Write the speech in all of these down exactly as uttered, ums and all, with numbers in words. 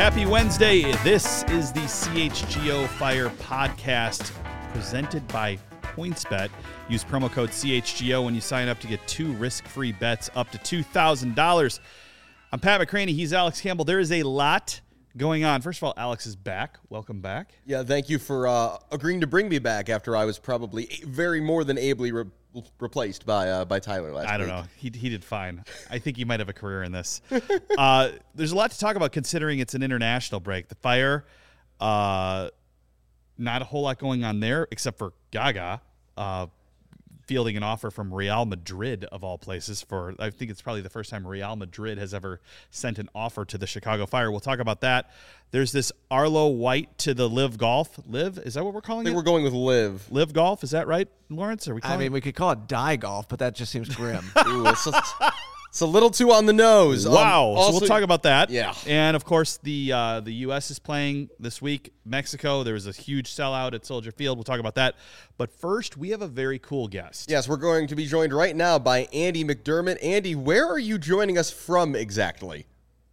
Happy Wednesday. This is the C H G O Fire podcast presented by PointsBet. Use promo code C H G O when you sign up to get two risk-free bets up to two thousand dollars. I'm Pat McCraney. He's Alex Campbell. There is a lot going on. First of all, Alex is back. Welcome back. Yeah, thank you for uh, agreeing to bring me back after I was probably very more than ably re- replaced by uh, by Tyler last week. I don't know. He he did fine. I think he might have a career in this. uh, there's a lot to talk about considering it's an international break. The Fire, uh, not a whole lot going on there except for Gaga uh, fielding an offer from Real Madrid, of all places. For I think it's probably the first time Real Madrid has ever sent an offer to the Chicago Fire. We'll talk about that. There's this Arlo White to the Live Golf. Live? Is that what we're calling I think it? we're going with Live. Live Golf? Is that right, Lawrence? Are we calling I mean, it? we could call it Die Golf, but that just seems grim. Ooh, it's, a, it's a little too on the nose. Wow. Um, so also, we'll talk about that. Yeah. And, of course, the uh, the U S is playing this week. Mexico, there was a huge sellout at Soldier Field. We'll talk about that. But first, we have a very cool guest. Yes, we're going to be joined right now by Andy McDermott. Andy, where are you joining us from exactly?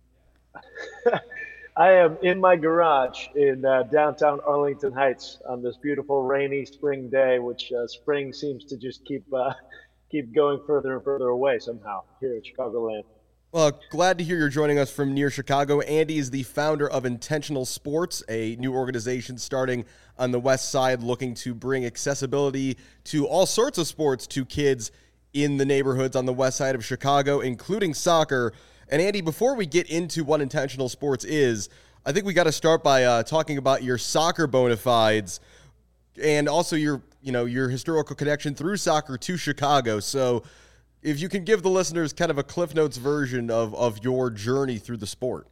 I am in my garage in uh, downtown Arlington Heights on this beautiful rainy spring day, which uh, spring seems to just keep uh, keep going further and further away somehow here in Chicagoland. Well, glad to hear you're joining us from near Chicago. Andy is the founder of Intentional Sports, a new organization starting on the west side looking to bring accessibility to all sorts of sports to kids in the neighborhoods on the west side of Chicago, including soccer. And Andy, before we get into what Intentional Sports is, I think we got to start by uh, talking about your soccer bona fides and also your, you know, your historical connection through soccer to Chicago. So if you can give the listeners kind of a Cliff Notes version of, of your journey through the sport.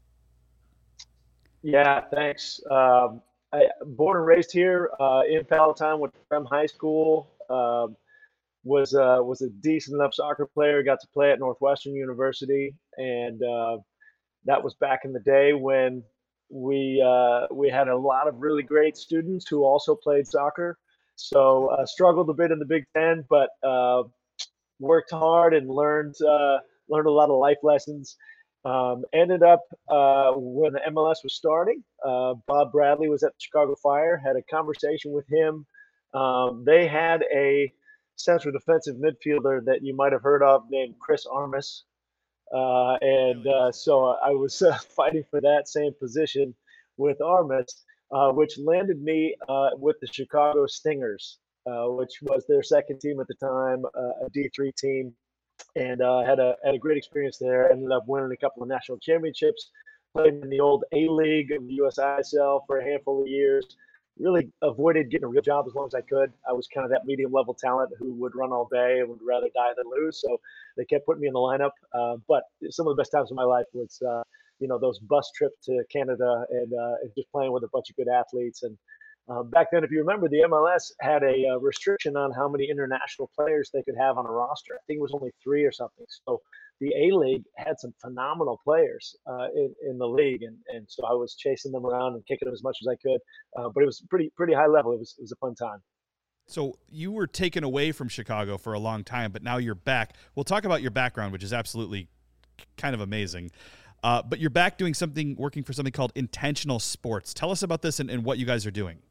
Yeah, thanks. Um, I, born and raised here uh, in Palatine, went from high school. Um, was uh, was a decent enough soccer player. Got to play at Northwestern University, and uh, that was back in the day when we uh, we had a lot of really great students who also played soccer. So uh, struggled a bit in the Big Ten, but uh, worked hard and learned uh, learned a lot of life lessons. Um, ended up uh, when the M L S was starting. Uh, Bob Bradley was at the Chicago Fire. Had a conversation with him. Um, they had a central defensive midfielder that you might have heard of named Chris Armas. Uh, and uh, so I was uh, fighting for that same position with Armas, uh, which landed me uh, with the Chicago Stingers, uh, which was their second team at the time, uh, a D three team. And uh, had a had a great experience there. Ended up winning a couple of national championships, played in the old A-League of the U S I S L for a handful of years. Really avoided getting a real job as long as I could. I was kind of that medium level talent who would run all day and would rather die than lose. So they kept putting me in the lineup. Uh, but some of the best times of my life was, uh, you know, those bus trips to Canada and, uh, and just playing with a bunch of good athletes. And um, back then, if you remember, the M L S had a uh, restriction on how many international players they could have on a roster. I think it was only three or something. So the A-League had some phenomenal players uh, in, in the league, and, and so I was chasing them around and kicking them as much as I could. Uh, but it was pretty pretty high level. It was it was a fun time. So you were taken away from Chicago for a long time, but now you're back. We'll talk about your background, which is absolutely kind of amazing. Uh, but you're back doing something, working for something called Intentional Sports. Tell us about this and, and what you guys are doing.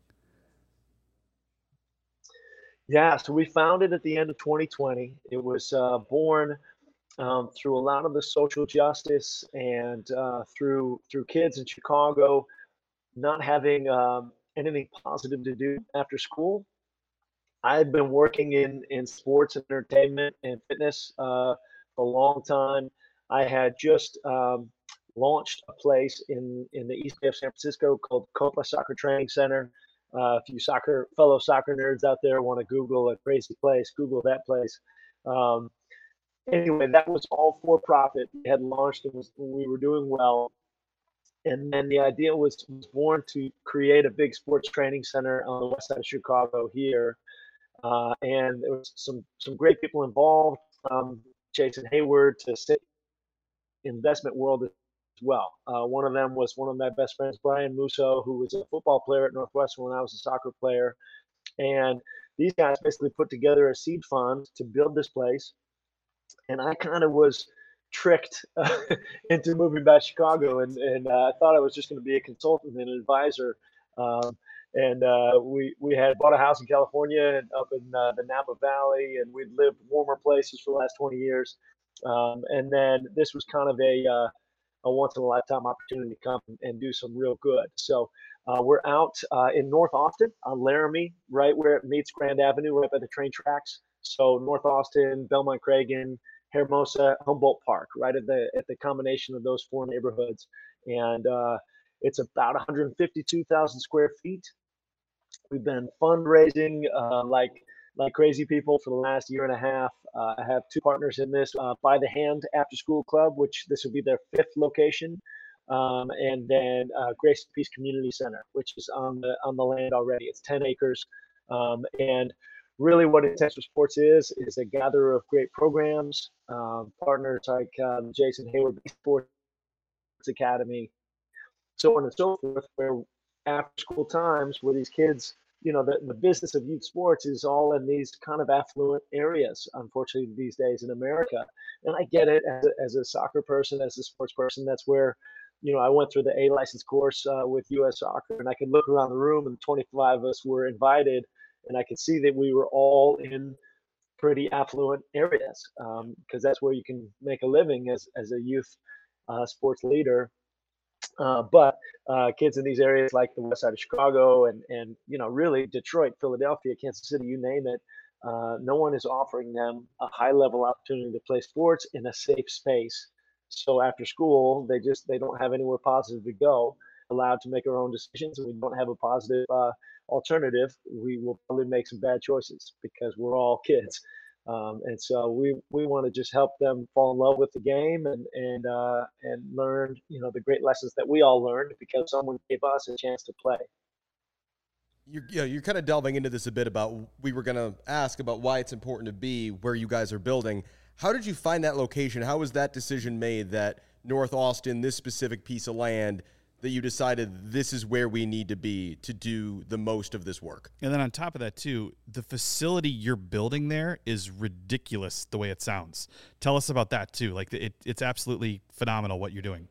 Yeah, so we founded at the end of twenty twenty. It was uh, born Um, through a lot of the social justice and uh, through through kids in Chicago not having um, anything positive to do after school. I had been working in, in sports and entertainment and fitness uh, for a long time. I had just um, launched a place in, in the East Bay of San Francisco called Copa Soccer Training Center. Uh, if you soccer fellow soccer nerds out there want to Google a crazy place, Google that place. Um, Anyway, that was all for profit. We had launched and was, we were doing well. And then the idea was, was born to create a big sports training center on the west side of Chicago here. Uh, and there was some some great people involved, um, Jason Hayward to sit investment world as well. Uh, one of them was one of my best friends, Brian Musso, who was a football player at Northwestern when I was a soccer player. And these guys basically put together a seed fund to build this place. And I kind of was tricked uh, into moving back to Chicago, and and uh, I thought I was just going to be a consultant and an advisor. Um, and uh, we we had bought a house in California and up in uh, the Napa Valley, and we'd lived warmer places for the last twenty years. Um, and then this was kind of a uh, a once in a lifetime opportunity to come and do some real good. So uh, we're out uh, in North Austin on Laramie, right where it meets Grand Avenue, right by the train tracks. So North Austin, Belmont Cragen, Hermosa, Humboldt Park, right at the at the combination of those four neighborhoods, and uh, it's about one hundred fifty-two thousand square feet. We've been fundraising uh, like like crazy people for the last year and a half. Uh, I have two partners in this, uh, By the Hand After School Club, which this will be their fifth location, um, and then uh, Grace and Peace Community Center, which is on the on the land already. It's ten acres, um, and really what Intentional Sports is is a gatherer of great programs, um, partners like um, Jason Hayward Sports Academy, so on and so forth, where after school times where these kids, you know, the, the business of youth sports is all in these kind of affluent areas, unfortunately, these days in America. And I get it as a, as a soccer person, as a sports person. That's where, you know, I went through the A license course uh, with U S Soccer, and I could look around the room, and twenty-five of us were invited, and I could see that we were all in pretty affluent areas, because um, that's where you can make a living as, as a youth uh, sports leader. Uh, but uh, kids in these areas like the west side of Chicago and, and you know, really Detroit, Philadelphia, Kansas City, you name it, uh, no one is offering them a high level opportunity to play sports in a safe space. So after school, they just they don't have anywhere positive to go, allowed to make our own decisions, and we don't have a positive uh, alternative. We will probably make some bad choices because we're all kids. Um, and so we, we want to just help them fall in love with the game and and uh, and learn, you know, the great lessons that we all learned because someone gave us a chance to play. You're, you know, you're kind of delving into this a bit about, we were going to ask about why it's important to be where you guys are building. How did you find that location? How was that decision made that North Austin, this specific piece of land, that you decided this is where we need to be to do the most of this work? And then on top of that, too, the facility you're building there is ridiculous the way it sounds. Tell us about that, too. Like, it, it's absolutely phenomenal what you're doing.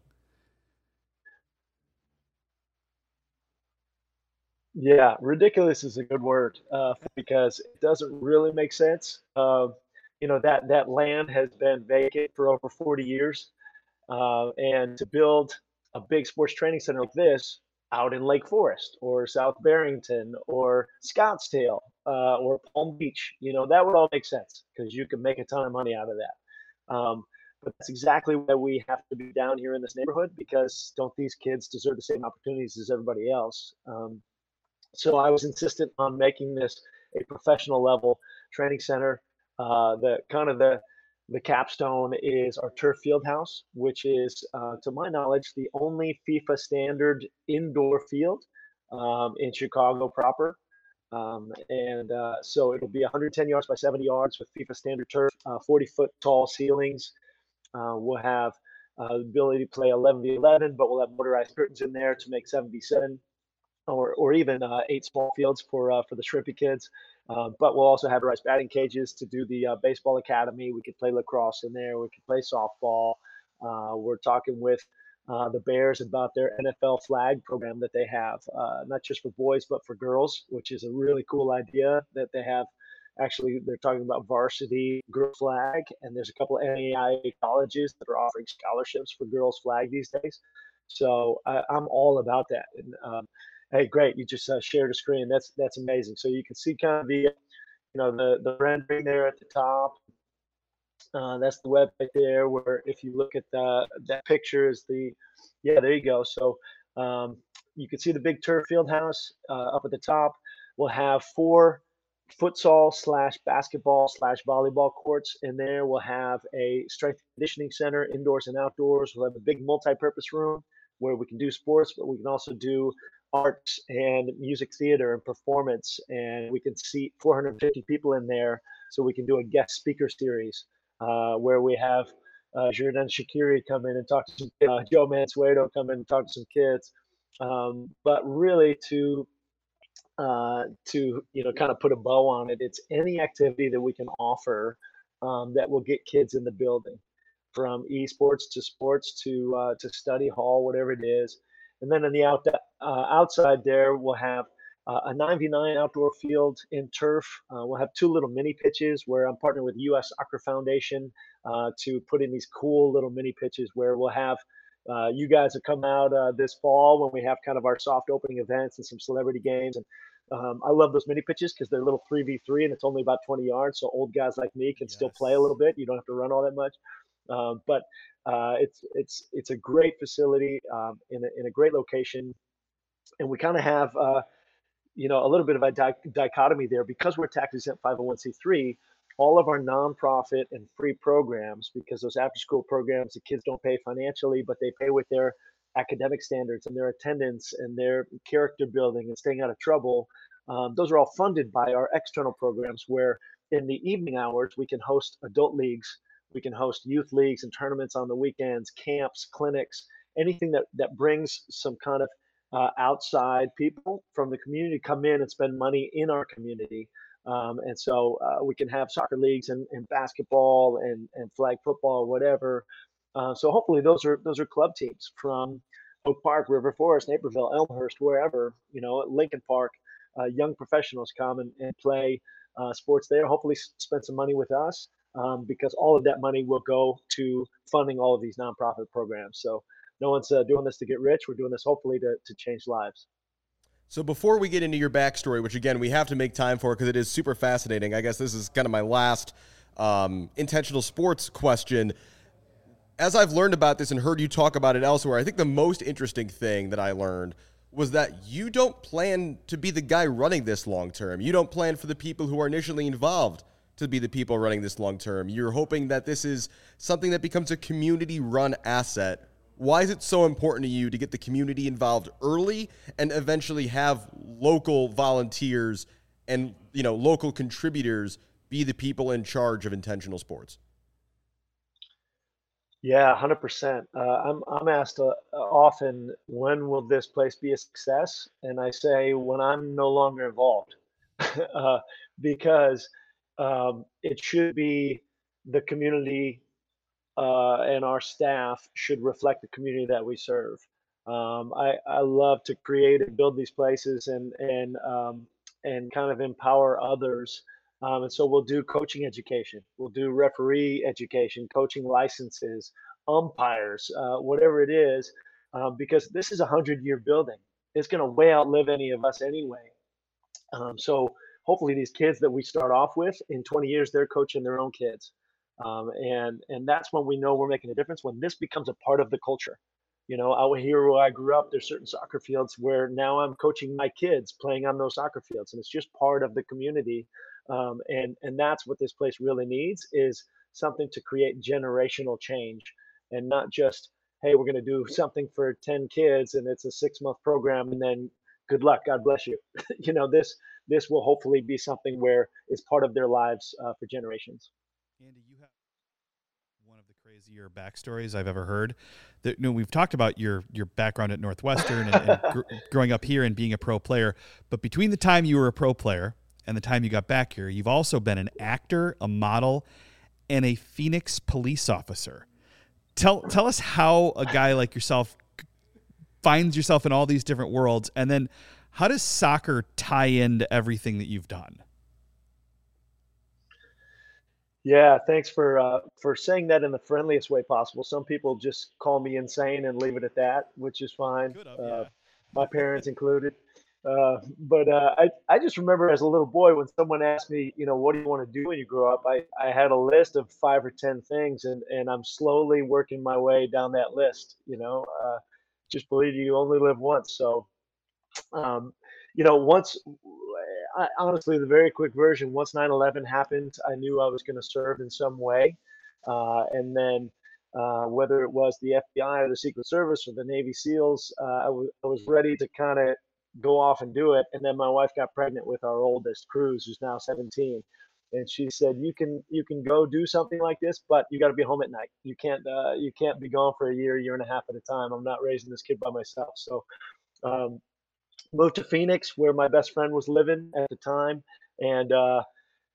Yeah, ridiculous is a good word uh, because it doesn't really make sense. Uh, you know, that, that land has been vacant for over forty years. Uh, and to build a big sports training center like this out in Lake Forest or South Barrington or Scottsdale uh, or Palm Beach, you know, that would all make sense because you can make a ton of money out of that. Um, but that's exactly why we have to be down here in this neighborhood, because don't these kids deserve the same opportunities as everybody else? Um, so I was insistent on making this a professional level training center. Uh, the kind of the the capstone is our turf field house, which is, uh, to my knowledge, the only FIFA standard indoor field um, in Chicago proper. Um, and uh, so it'll be one hundred ten yards by seventy yards with FIFA standard turf, uh, forty foot tall ceilings. Uh, we'll have uh, the ability to play eleven v eleven, but we'll have motorized curtains in there to make seven v seven. Or, or even uh, eight small fields for uh, for the Shrimpy kids. Uh, but we'll also have rice batting cages to do the uh, baseball academy. We could play lacrosse in there. We could play softball. Uh, we're talking with uh, the Bears about their N F L flag program that they have, uh, not just for boys but for girls, which is a really cool idea that they have. Actually, they're talking about varsity girl flag, and there's a couple of N A I A colleges that are offering scholarships for girls flag these days. So I, I'm all about that. And um, hey, great! You just uh, shared a screen. That's that's amazing. So you can see kind of the, you know, the the rendering there at the top. Uh, that's the web right there. Where if you look at the, that picture is the, yeah, there you go. So um, you can see the big turf field house uh, up at the top. We'll have four futsal slash basketball slash volleyball courts in there. We'll have a strength and conditioning center, indoors and outdoors. We'll have a big multi-purpose room where we can do sports, but we can also do arts and music theater and performance. And we can seat four hundred fifty people in there, so we can do a guest speaker series uh, where we have uh, Jordan Shaqiri come in and talk to some, uh, Joe Mansueto come in and talk to some kids. Um, but really to uh, to you know kind of put a bow on it, it's any activity that we can offer um, that will get kids in the building. from esports to sports to uh, to study hall, whatever it is. And then on the out, uh, outside there, we'll have uh, a nine v nine outdoor field in turf. Uh, we'll have two little mini pitches where I'm partnering with U S Soccer Foundation uh, to put in these cool little mini pitches where we'll have uh, you guys have come out uh, this fall when we have kind of our soft opening events and some celebrity games. And um, I love those mini pitches because they're little three v three and it's only about twenty yards. So old guys like me can still play a little bit. You don't have to run all that much. Um, but uh, it's it's it's a great facility um, in a, in a great location, and we kind of have uh, you know a little bit of a di- dichotomy there because we're tax exempt five oh one c three. All of our nonprofit and free programs, because those after school programs, the kids don't pay financially, but they pay with their academic standards and their attendance and their character building and staying out of trouble. Um, those are all funded by our external programs where in the evening hours, we can host adult leagues, we can host youth leagues and tournaments on the weekends, camps, clinics, anything that, that brings some kind of uh, outside people from the community come in and spend money in our community. Um, and so uh, we can have soccer leagues and, and basketball and, and flag football, whatever. Uh, so hopefully those are those are club teams from Oak Park, River Forest, Naperville, Elmhurst, wherever, you know, Lincoln Park. Uh, young professionals come and, and play uh, sports there. Hopefully spend some money with us um, because all of that money will go to funding all of these nonprofit programs. So no one's uh, doing this to get rich. We're doing this hopefully to to change lives. So before we get into your backstory, which again, we have to make time for because it is super fascinating, I guess this is kind of my last um, intentional sports question. As I've learned about this and heard you talk about it elsewhere, I think the most interesting thing that I learned was that you don't plan to be the guy running this long term. You don't plan for the people who are initially involved to be the people running this long term. You're hoping that this is something that becomes a community-run asset. Why is it so important to you to get the community involved early and eventually have local volunteers and, you know, local contributors be the people in charge of intentional sports? Yeah, one hundred percent. Uh, I'm I'm asked uh, often, when will this place be a success? And I say, when I'm no longer involved, uh, because um, it should be the community uh, and our staff should reflect the community that we serve. Um, I, I love to create and build these places and and um, and kind of empower others. Um, and so we'll do coaching education, we'll do referee education, coaching licenses, umpires, uh, whatever it is, um, because this is a hundred year building. It's going to way outlive any of us anyway. Um, so hopefully these kids that we start off with in twenty years, they're coaching their own kids. Um, and, and that's when we know we're making a difference, when this becomes a part of the culture. You know, out here where I grew up, there's certain soccer fields where now I'm coaching my kids playing on those soccer fields, and it's just part of the community. Um, and, and that's what this place really needs, is something to create generational change, and not just, hey, we're going to do something for ten kids and it's a six month program and then good luck, God bless you. You know, this this will hopefully be something where it's part of their lives uh, for generations. Andy, you have one of the crazier backstories I've ever heard. That, you know, we've talked about your your background at Northwestern and, and gr- growing up here and being a pro player, but between the time you were a pro player and the time you got back here, you've also been an actor, a model, and a Phoenix police officer. Tell tell us how a guy like yourself finds yourself in all these different worlds, and then how does soccer tie into everything that you've done? Yeah, thanks for uh, for saying that in the friendliest way possible. Some people just call me insane and leave it at that, which is fine. Could have, Uh, yeah. my parents included. Uh, but uh, I I just remember as a little boy when someone asked me, you know, what do you want to do when you grow up? I, I had a list of five or ten things, and and I'm slowly working my way down that list. You know, uh, just believe you only live once, so um, you know, once, I, honestly, the very quick version, once nine eleven happened, I knew I was going to serve in some way. Uh, and then uh, whether it was the F B I or the Secret Service or the Navy SEALs, uh, I, w- I was ready to kind of go off and do it. And then my wife got pregnant with our oldest, Cruz, who's now seventeen. And she said, "You can you can go do something like this, but you got to be home at night. You can't uh, you can't be gone for a year, year and a half at a time. I'm not raising this kid by myself." So um, moved to Phoenix where my best friend was living at the time, and uh,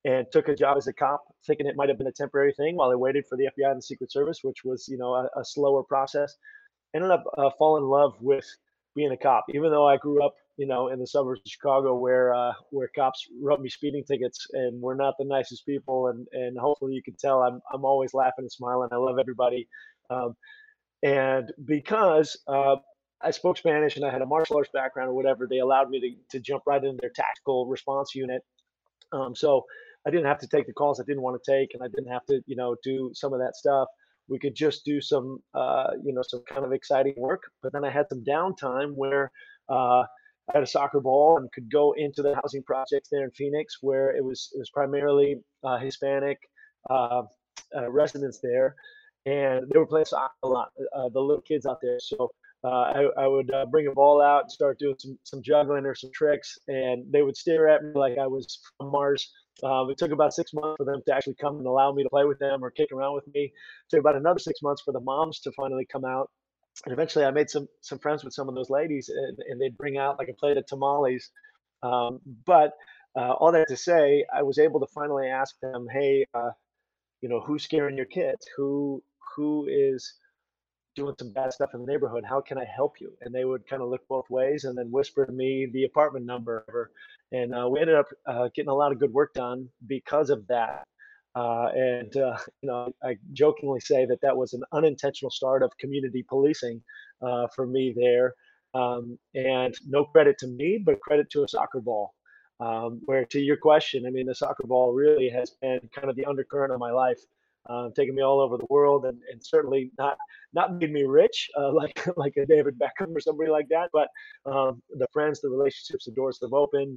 and took a job as a cop, thinking it might have been a temporary thing while I waited for the F B I and the Secret Service, which was, you know, a, a slower process. Ended up uh, falling in love with being a cop, even though I grew up, you know, in the suburbs of Chicago, where uh, where cops wrote me speeding tickets, and we're not the nicest people. And and hopefully you can tell I'm I'm always laughing and smiling. I love everybody, um, and because uh, I spoke Spanish and I had a martial arts background or whatever, they allowed me to to jump right into their tactical response unit. Um, so I didn't have to take the calls I didn't want to take, and I didn't have to, you know, do some of that stuff. We could just do some, uh, you know, some kind of exciting work. But then I had some downtime where uh, I had a soccer ball and could go into the housing projects there in Phoenix, where it was it was primarily uh, Hispanic uh, uh, residents there, and they were playing soccer a lot. Uh, the little kids out there, so. Uh, I, I would uh, bring a ball out and start doing some, some juggling or some tricks, and they would stare at me like I was from Mars. Um, it took about six months for them to actually come and allow me to play with them or kick around with me. It took about another six months for the moms to finally come out. And eventually I made some some friends with some of those ladies, and, and they'd bring out like a plate of tamales. Um, but uh, all that to say, I was able to finally ask them, hey, uh, you know, who's scaring your kids? Who who is doing some bad stuff in the neighborhood? How can I help you? And they would kind of look both ways and then whisper to me the apartment number. And uh, we ended up uh, getting a lot of good work done because of that. Uh, and, uh, you know, I jokingly say that that was an unintentional start of community policing uh, for me there. Um, and no credit to me, but credit to a soccer ball. Um, where to your question, I mean, the soccer ball really has been kind of the undercurrent of my life. Uh, taking me all over the world, and, and certainly not not made me rich uh, like like a David Beckham or somebody like that. But um, the friends, the relationships, the doors that have opened,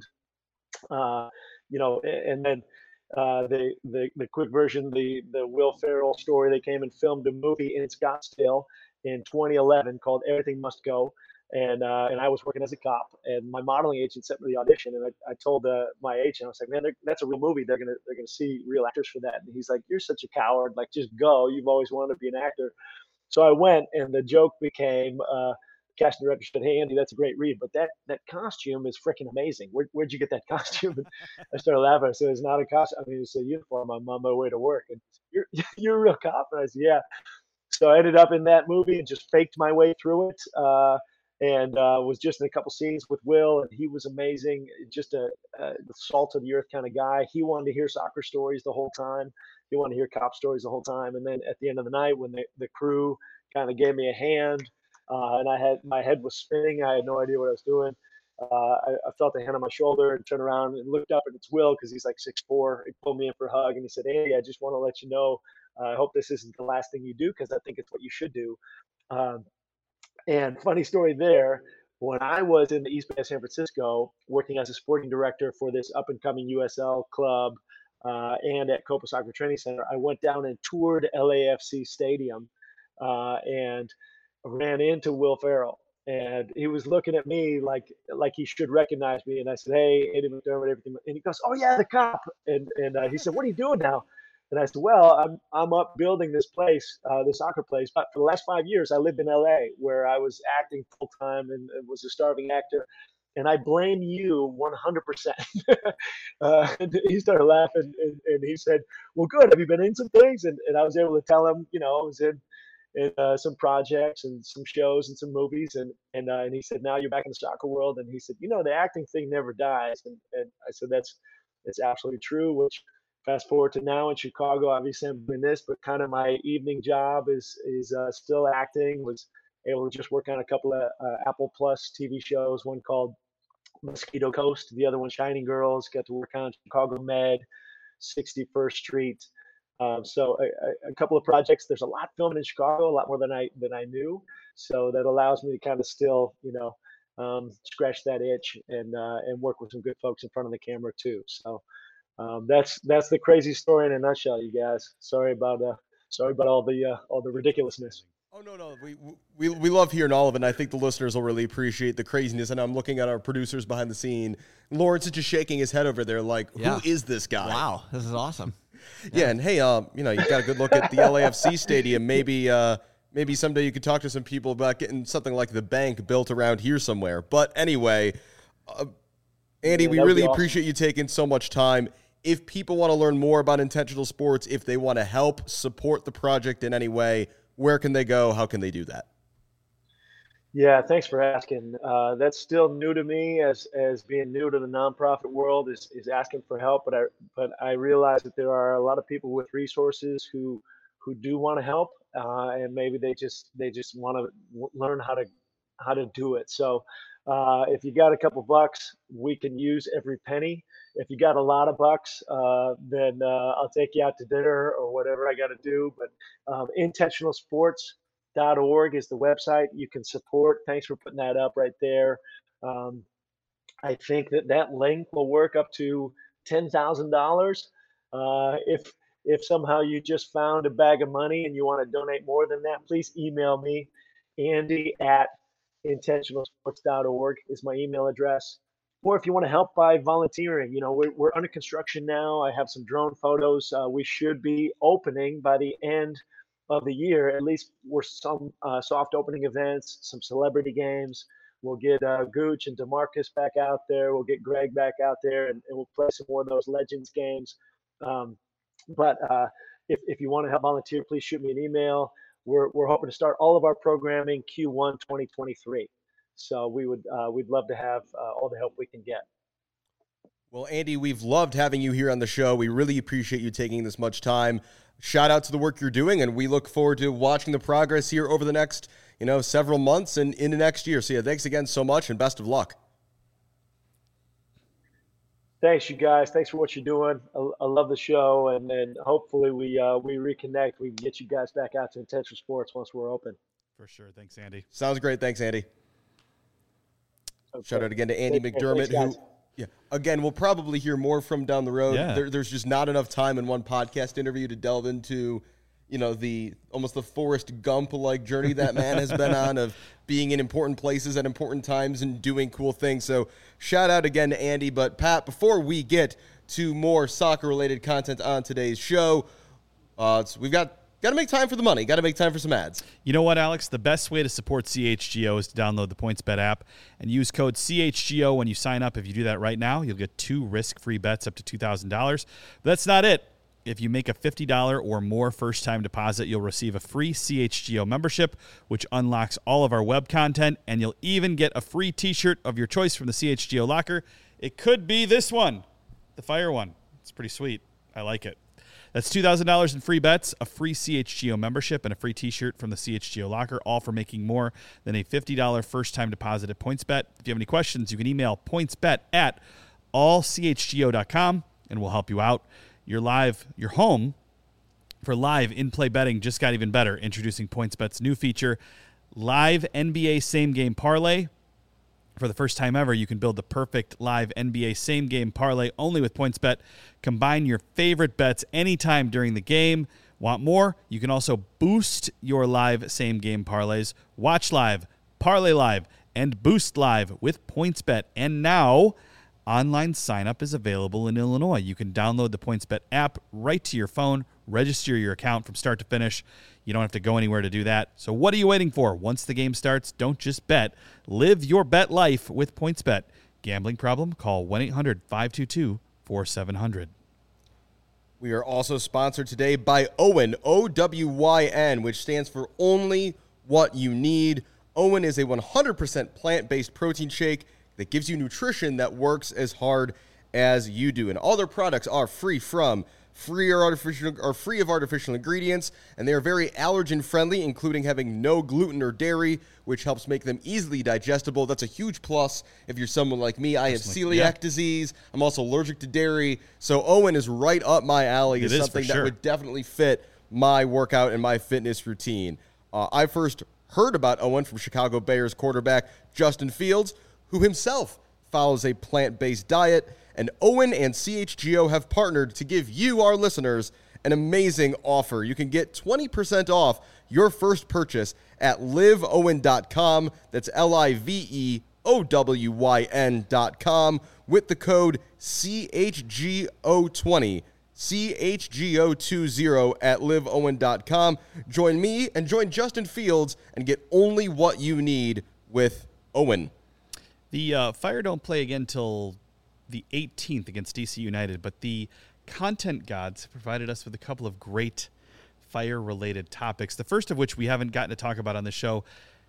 uh, you know, and then uh, the, the the quick version, the the Will Ferrell story. They came and filmed a movie in Scottsdale in twenty eleven called Everything Must Go. And uh, and I was working as a cop, and my modeling agent sent me the audition, and I, I told uh, my agent, I was like, man, that's a real movie. They're gonna they're gonna see real actors for that. And he's like, you're such a coward. Like, just go. You've always wanted to be an actor. So I went, and the joke became, uh, casting director said, hey Andy, that's a great read, but that that costume is freaking amazing. Where, where'd you get that costume? And I started laughing. I said, it's not a costume. I mean, it's a uniform. I'm on my way to work. And you're you're a real cop. And I said, yeah. So I ended up in that movie and just faked my way through it. Uh, and uh, was just in a couple scenes with Will, and he was amazing. Just a, a salt of the earth kind of guy. He wanted to hear soccer stories the whole time. He wanted to hear cop stories the whole time. And then at the end of the night, when the, the crew kind of gave me a hand, uh, and I had my head was spinning, I had no idea what I was doing. Uh, I, I felt a hand on my shoulder and turned around and looked up, and it's Will, because he's like six foot four. He pulled me in for a hug, and he said, "Hey, I just want to let you know. Uh, I hope this isn't the last thing you do, because I think it's what you should do." Um, And funny story there, when I was in the East Bay of San Francisco working as a sporting director for this up and coming U S L club uh, and at Copa Soccer Training Center, I went down and toured L A F C Stadium uh, and ran into Will Ferrell. And he was looking at me like like he should recognize me. And I said, "Hey, Andy McDermott, everything." And he goes, "Oh yeah, the cop." And and uh, he said, "What are you doing now?" And I said, "Well, I'm I'm up building this place, uh, the soccer place. But for the last five years, I lived in L A, where I was acting full time and, and was a starving actor. And I blame you one hundred percent." uh, and he started laughing, and, and he said, "Well, good. Have you been in some things?" And, and I was able to tell him, you know, I was in in uh, some projects and some shows and some movies. And and uh, and he said, "Now you're back in the soccer world." And he said, "You know, the acting thing never dies." And, and I said, "That's it's absolutely true." Which, fast forward to now in Chicago, obviously I'm doing this, but kind of my evening job is is uh, still acting. Was able to just work on a couple of uh, Apple Plus T V shows, one called Mosquito Coast, the other one Shining Girls. Got to work on Chicago Med, sixty-first Street. Um, so a, a, a couple of projects. There's a lot filming in Chicago, a lot more than I than I knew. So that allows me to kind of still, you know, um, scratch that itch and uh, and work with some good folks in front of the camera too. So. Um, that's that's the crazy story in a nutshell, you guys. Sorry about uh, sorry about all the uh, all the ridiculousness. Oh no no we we we love hearing all of it. And I think the listeners will really appreciate the craziness. And I'm looking at our producers behind the scene. Lawrence is just shaking his head over there, like, Yeah. who is this guy? Wow, this is awesome. Yeah, yeah and hey, um, you know, you got a good look at the L A F C stadium. Maybe uh, maybe someday you could talk to some people about getting something like the bank built around here somewhere. But anyway, uh, Andy, Yeah, we that would really be awesome. appreciate you taking so much time. if people want to learn more about Intentional Sports, if they want to help support the project in any way, where can they go? How can they do that? Yeah, thanks for asking. Uh, that's still new to me, as as being new to the nonprofit world is is asking for help. But I but I realize that there are a lot of people with resources who who do want to help, uh, and maybe they just they just want to w- learn how to how to do it. So uh, if you got a couple bucks, we can use every penny. If you got a lot of bucks, uh, then uh, I'll take you out to dinner or whatever I got to do. But um, intentional sports dot org is the website you can support. Thanks for putting that up right there. Um, I think that that link will work up to ten thousand dollars. Uh, if if somehow you just found a bag of money and you want to donate more than that, please email me. Andy at intentional sports dot org is my email address. Or if you want to help by volunteering, you know, we're, we're under construction now. I have some drone photos. Uh, we should be opening by the end of the year. At least we're some uh, soft opening events, some celebrity games. We'll get uh, Gooch and DeMarcus back out there. We'll get Greg back out there, and, and we'll play some more of those Legends games. Um, but uh, if, if you want to help volunteer, please shoot me an email. We're, we're hoping to start all of our programming Q one twenty twenty-three. So we would uh, we'd love to have uh, all the help we can get. Well, Andy, we've loved having you here on the show. We really appreciate you taking this much time. Shout out to the work you're doing, and we look forward to watching the progress here over the next, you know, several months and into next year. So yeah, thanks again so much, and best of luck. Thanks, you guys. Thanks for what you're doing. I, I love the show, and then hopefully we uh, we reconnect. We can get you guys back out to Intentional Sports once we're open. For sure. Thanks, Andy. Sounds great. Thanks, Andy. Okay. Shout out again to Andy Take care. McDermott, Thanks, who, guys. yeah, again, we'll probably hear more from down the road. Yeah. There, there's just not enough time in one podcast interview to delve into, you know, the almost the Forrest Gump-like journey that man has been on of being in important places at important times and doing cool things. So shout out again to Andy. But Pat, before we get to more soccer-related content on today's show, uh, it's, we've got got to make time for the money. Got to make time for some ads. You know what, Alex? The best way to support C H G O is to download the PointsBet app and use code C H G O when you sign up. If you do that right now, you'll get two risk-free bets up to two thousand dollars. But that's not it. If you make a fifty dollars or more first-time deposit, you'll receive a free C H G O membership, which unlocks all of our web content, and you'll even get a free T-shirt of your choice from the C H G O locker. It could be this one, the Fire one. It's pretty sweet. I like it. That's two thousand dollars in free bets, a free C H G O membership, and a free T-shirt from the C H G O locker, all for making more than a fifty dollars first-time deposit at PointsBet. If you have any questions, you can email pointsbet at all c h g o dot com, and we'll help you out. Your live, your home for live in-play betting just got even better. Introducing PointsBet's new feature, Live N B A Same Game Parlay. For the first time ever, you can build the perfect live N B A Same Game Parlay only with PointsBet. Combine your favorite bets anytime during the game. Want more? You can also boost your live Same Game Parlays. Watch live, parlay live, and boost live with PointsBet. And now, online sign-up is available in Illinois. You can download the PointsBet app right to your phone, register your account from start to finish. You don't have to go anywhere to do that. So what are you waiting for? Once the game starts, don't just bet. Live your bet life with PointsBet. Gambling problem? Call one eight hundred five two two four seven zero zero. We are also sponsored today by Owen, O W Y N, which stands for Only What You Need. Owen is a one hundred percent plant-based protein shake that gives you nutrition that works as hard as you do. And all their products are free from free or artificial or free of artificial ingredients, and they are very allergen friendly, including having no gluten or dairy, which helps make them easily digestible. That's a huge plus if you're someone like me. I have celiac yeah. disease. I'm also allergic to dairy. So Owen is right up my alley. It It's is, something for that sure. would definitely fit my workout and my fitness routine. Uh, I first heard about Owen from Chicago Bears quarterback Justin Fields, who himself follows a plant-based diet. And Owen and C H G O have partnered to give you, our listeners, an amazing offer. You can get twenty percent off your first purchase at live owen dot com. That's L I V E O W Y N dot com with the code C H G O twenty. C H G O twenty at live owen dot com. Join me and join Justin Fields and get only what you need with Owen. The uh, Fire don't play again till the eighteenth against D C United, but the content gods have provided us with a couple of great Fire-related topics. The first of which we haven't gotten to talk about on the show,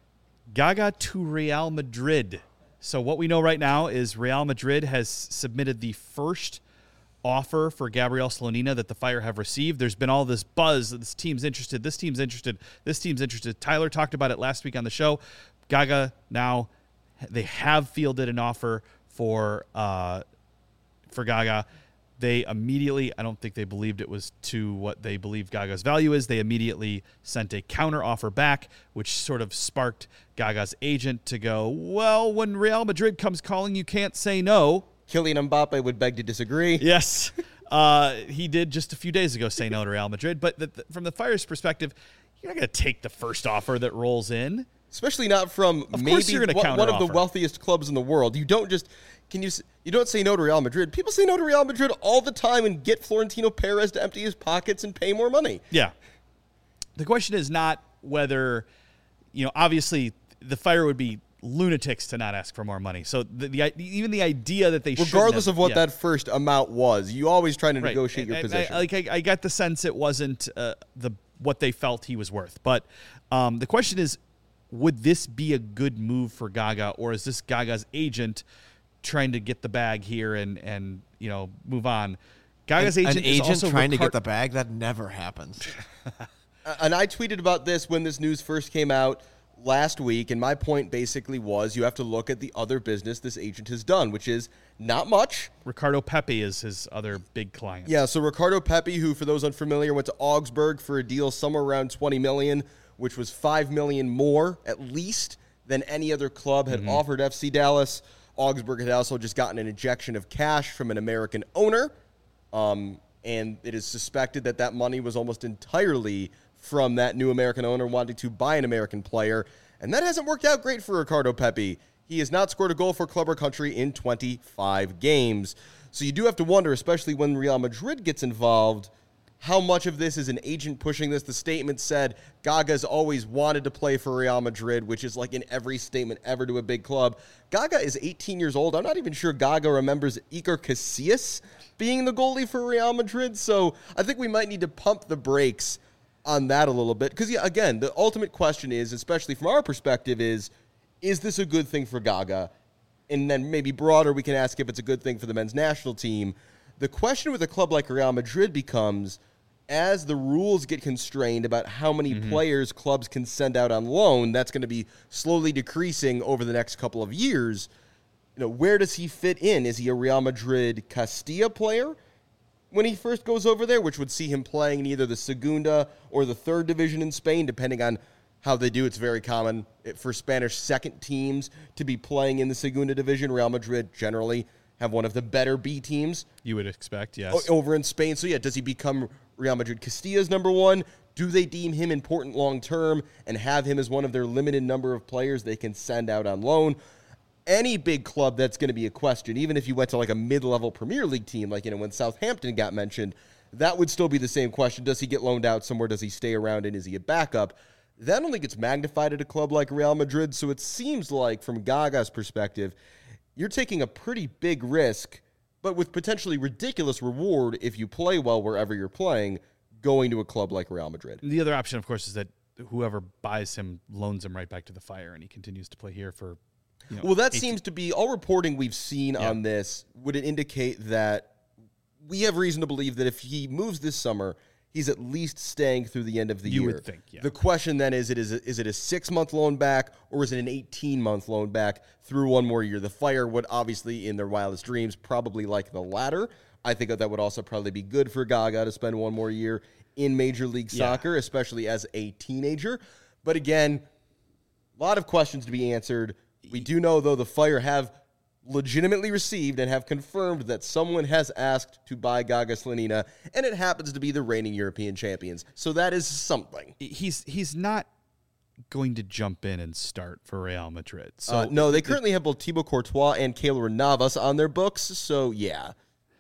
Gaga to Real Madrid. So what we know right now is Real Madrid has submitted the first offer for Gabriel Slonina that the Fire have received. There's been all this buzz that this team's interested, this team's interested, this team's interested. Tyler talked about it last week on the show. Gaga now, they have fielded an offer for uh, for Gaga. They immediately, I don't think they believed it was to what they believe Gaga's value is. They immediately sent a counter offer back, which sort of sparked Gaga's agent to go, well, when Real Madrid comes calling, you can't say no. Kylian Mbappe would beg to disagree. Yes. Uh, he did just a few days ago say no to Real Madrid. But the, the, from the Fire's perspective, you're not going to take the first offer that rolls in. Especially not from Of maybe course you're gonna one, one of the counteroffer. wealthiest clubs in the world. You don't just can you s- you don't say no to Real Madrid. People say no to Real Madrid all the time and get Florentino Perez to empty his pockets and pay more money. Yeah. The question is not whether, you know, obviously the Fire would be lunatics to not ask for more money. So the, the even the idea that they shouldn't Regardless have- of what yeah. that first amount was, you always try to Right. negotiate And your I- position. I, like I, I got the sense it wasn't uh, the what they felt he was worth. But um, the question is, would this be a good move for Gaga, or is this Gaga's agent trying to get the bag here and and you know move on? Gaga's An, agent an is agent also trying to Ricard- get the bag? That never happens. And I tweeted about this when this news first came out last week, and my point basically was you have to look at the other business this agent has done, which is not much. Ricardo Pepe is his other big client. Yeah, so Ricardo Pepe, who for those unfamiliar went to Augsburg for a deal somewhere around twenty million dollars, which was five million dollars more at least than any other club had offered F C Dallas. Augsburg had also just gotten an injection of cash from an American owner, um, and it is suspected that that money was almost entirely from that new American owner wanting to buy an American player, and that hasn't worked out great for Ricardo Pepe. He has not scored a goal for club or country in twenty-five games. So you do have to wonder, especially when Real Madrid gets involved, how much of this is an agent pushing this. The statement said Gaga's always wanted to play for Real Madrid, which is like in every statement ever to a big club. Gaga is eighteen years old. I'm not even sure Gaga remembers Iker Casillas being the goalie for Real Madrid. So I think we might need to pump the brakes on that a little bit. Because, yeah, again, the ultimate question is, especially from our perspective, is, is this a good thing for Gaga? And then maybe broader, we can ask if it's a good thing for the men's national team. The question with a club like Real Madrid becomes, as the rules get constrained about how many Mm-hmm. players clubs can send out on loan, that's going to be slowly decreasing over the next couple of years. You know, where does he fit in? Is he a Real Madrid Castilla player when he first goes over there, which would see him playing in either the Segunda or the third division in Spain, depending on how they do? It's very common for Spanish second teams to be playing in the Segunda division. Real Madrid generally have one of the better B teams You would expect, yes. o- over in Spain. So, yeah, does he become Real Madrid Castilla's number one? Do they deem him important long-term and have him as one of their limited number of players they can send out on loan? Any big club, that's going to be a question. Even if you went to like a mid-level Premier League team, like, you know, when Southampton got mentioned, that would still be the same question. Does he get loaned out somewhere? Does he stay around, and is he a backup? That only gets magnified at a club like Real Madrid. So it seems like, from Gaga's perspective, you're taking a pretty big risk, but with potentially ridiculous reward if you play well wherever you're playing, going to a club like Real Madrid. The other option, of course, is that whoever buys him loans him right back to the Fire, and he continues to play here for. You know, Well, that eighteen seems to be all reporting we've seen Yeah. on this. Would it indicate that we have reason to believe that if he moves this summer, he's at least staying through the end of the You year? would think, yeah. The question then is: it is a, is it a six month loan back, or is it an eighteen month loan back through one more year? The Fire would obviously, in their wildest dreams, probably like the latter. I think that that would also probably be good for Gaga to spend one more year in Major League Yeah. Soccer, especially as a teenager. But again, a lot of questions to be answered. We do know, though, the Fire have legitimately received and have confirmed that someone has asked to buy Gaga Slonina, and it happens to be the reigning European champions. So that is something. he's he's not going to jump in and start for Real Madrid. So Uh, no, they currently have both Thibaut Courtois and Keylor Navas on their books, so yeah.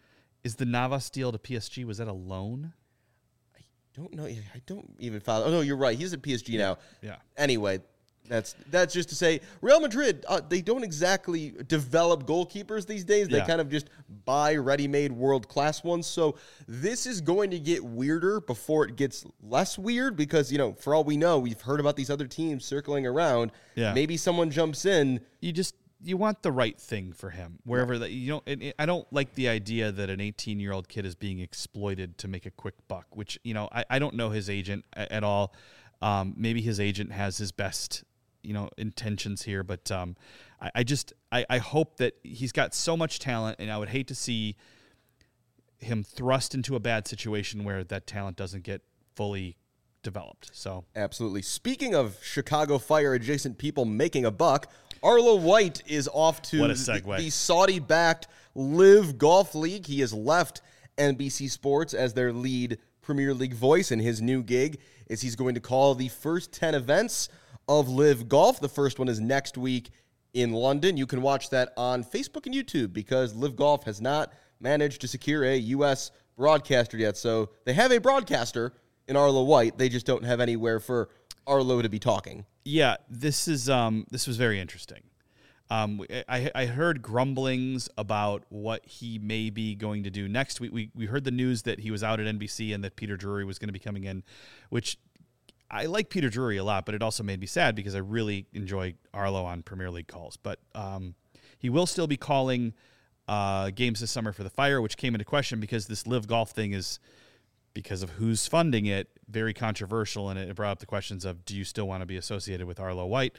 is the Navas deal to P S G, was that a loan? Don't know. I don't even follow. Oh, no, you're right. He's at P S G now. Yeah. Anyway, That's that's just to say, Real Madrid, uh, they don't exactly develop goalkeepers these days. They Yeah. kind of just buy ready-made world-class ones. So this is going to get weirder before it gets less weird because, you know, for all we know, we've heard about these other teams circling around. Yeah. Maybe someone jumps in. You just you want the right thing for him wherever that you don't. And it- I don't like the idea that an eighteen-year-old kid is being exploited to make a quick buck. Which you know, I, I don't know his agent a- at all. Um, maybe his agent has his best, you know, intentions here, but um, I, I just I, I hope that he's got so much talent, and I would hate to see him thrust into a bad situation where that talent doesn't get fully developed. So Absolutely. Speaking of Chicago Fire adjacent people making a buck, Arlo White is off to What a the, segue. the Saudi-backed Live Golf League. He has left N B C Sports as their lead Premier League voice, and his new gig is he's going to call the first ten events of Live Golf. The first one is next week in London. You can watch that on Facebook and YouTube because Live Golf has not managed to secure a U S broadcaster yet. So they have a broadcaster in Arlo White. They just don't have anywhere for Arlo to be talking. yeah, this is um, this was very interesting. Um, I, I heard grumblings about what he may be going to do next week. We we heard the news that he was out at N B C and that Peter Drury was going to be coming in, which I like Peter Drury a lot, but it also made me sad because I really enjoy Arlo on Premier League calls. But um, he will still be calling uh, games this summer for the Fire, which came into question because this Live Golf thing is, because of who's funding it, very controversial, and it brought up the questions of, do you still want to be associated with Arlo White?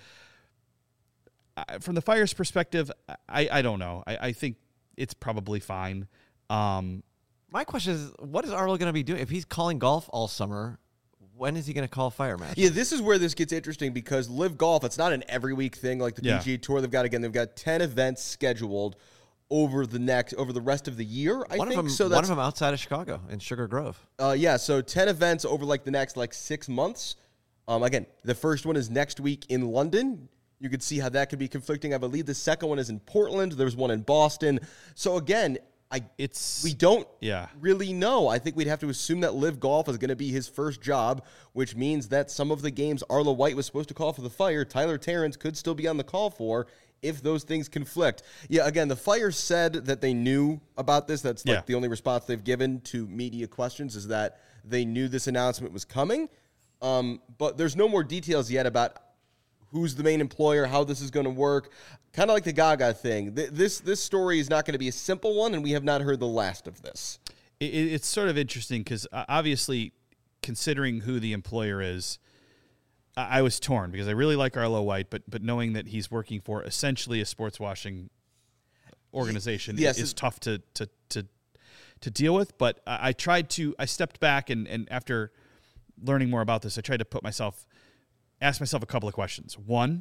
I, from the Fire's perspective, I, I don't know. I, I think it's probably fine. Um, My question is, what is Arlo going to be doing? If he's calling golf all summer, when is he going to call fire matches? Yeah, this is where this gets interesting because Live Golf, it's not an every week thing like the Yeah. P G A Tour. They've got, again, they've got ten events scheduled over the next, over the rest of the year, I one think. of them, so one that's, of them outside of Chicago in Sugar Grove. uh, yeah, so ten events over like the next like six months. Um, again, the first one is next week in London. You could see how that could be conflicting. I believe the second one is in Portland. There's one in Boston. So again, I it's we don't yeah. really know. I think we'd have to assume that Live Golf is going to be his first job, which means that some of the games Arlo White was supposed to call for the Fire, Tyler Terrence could still be on the call for if those things conflict. Yeah, again, the Fire said that they knew about this. That's like Yeah. the only response they've given to media questions is that they knew this announcement was coming. Um, but there's no more details yet about who's the main employer, how this is going to work. Kind of like the Gaga thing. Th- This this story is not going to be a simple one, and we have not heard the last of this. It, it's sort of interesting because uh, obviously, considering who the employer is, I, I was torn because I really like Arlo White, but but knowing that he's working for essentially a sports washing organization Yes, is it- tough to to to to deal with. But I, I tried to. I stepped back and and after learning more about this, I tried to put myself, ask myself a couple of questions. One,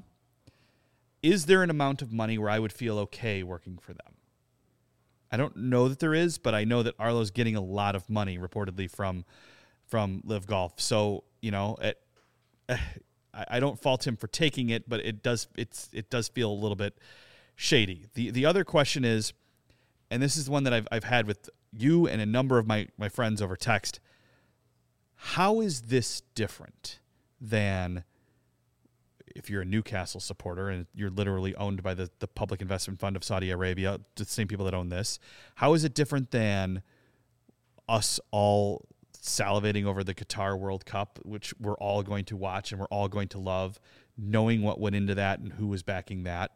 is there an amount of money where I would feel okay working for them? I don't know that there is, but I know that Arlo's getting a lot of money reportedly from from Live Golf. So, you know, it, I, I don't fault him for taking it, but it does it's it does feel a little bit shady. The the other question is, and this is the one that I've I've had with you and a number of my, my friends over text, how is this different than if you're a Newcastle supporter and you're literally owned by the, the Public Investment Fund of Saudi Arabia, the same people that own this? How is it different than us all salivating over the Qatar World Cup, which we're all going to watch and we're all going to love, knowing what went into that and who was backing that?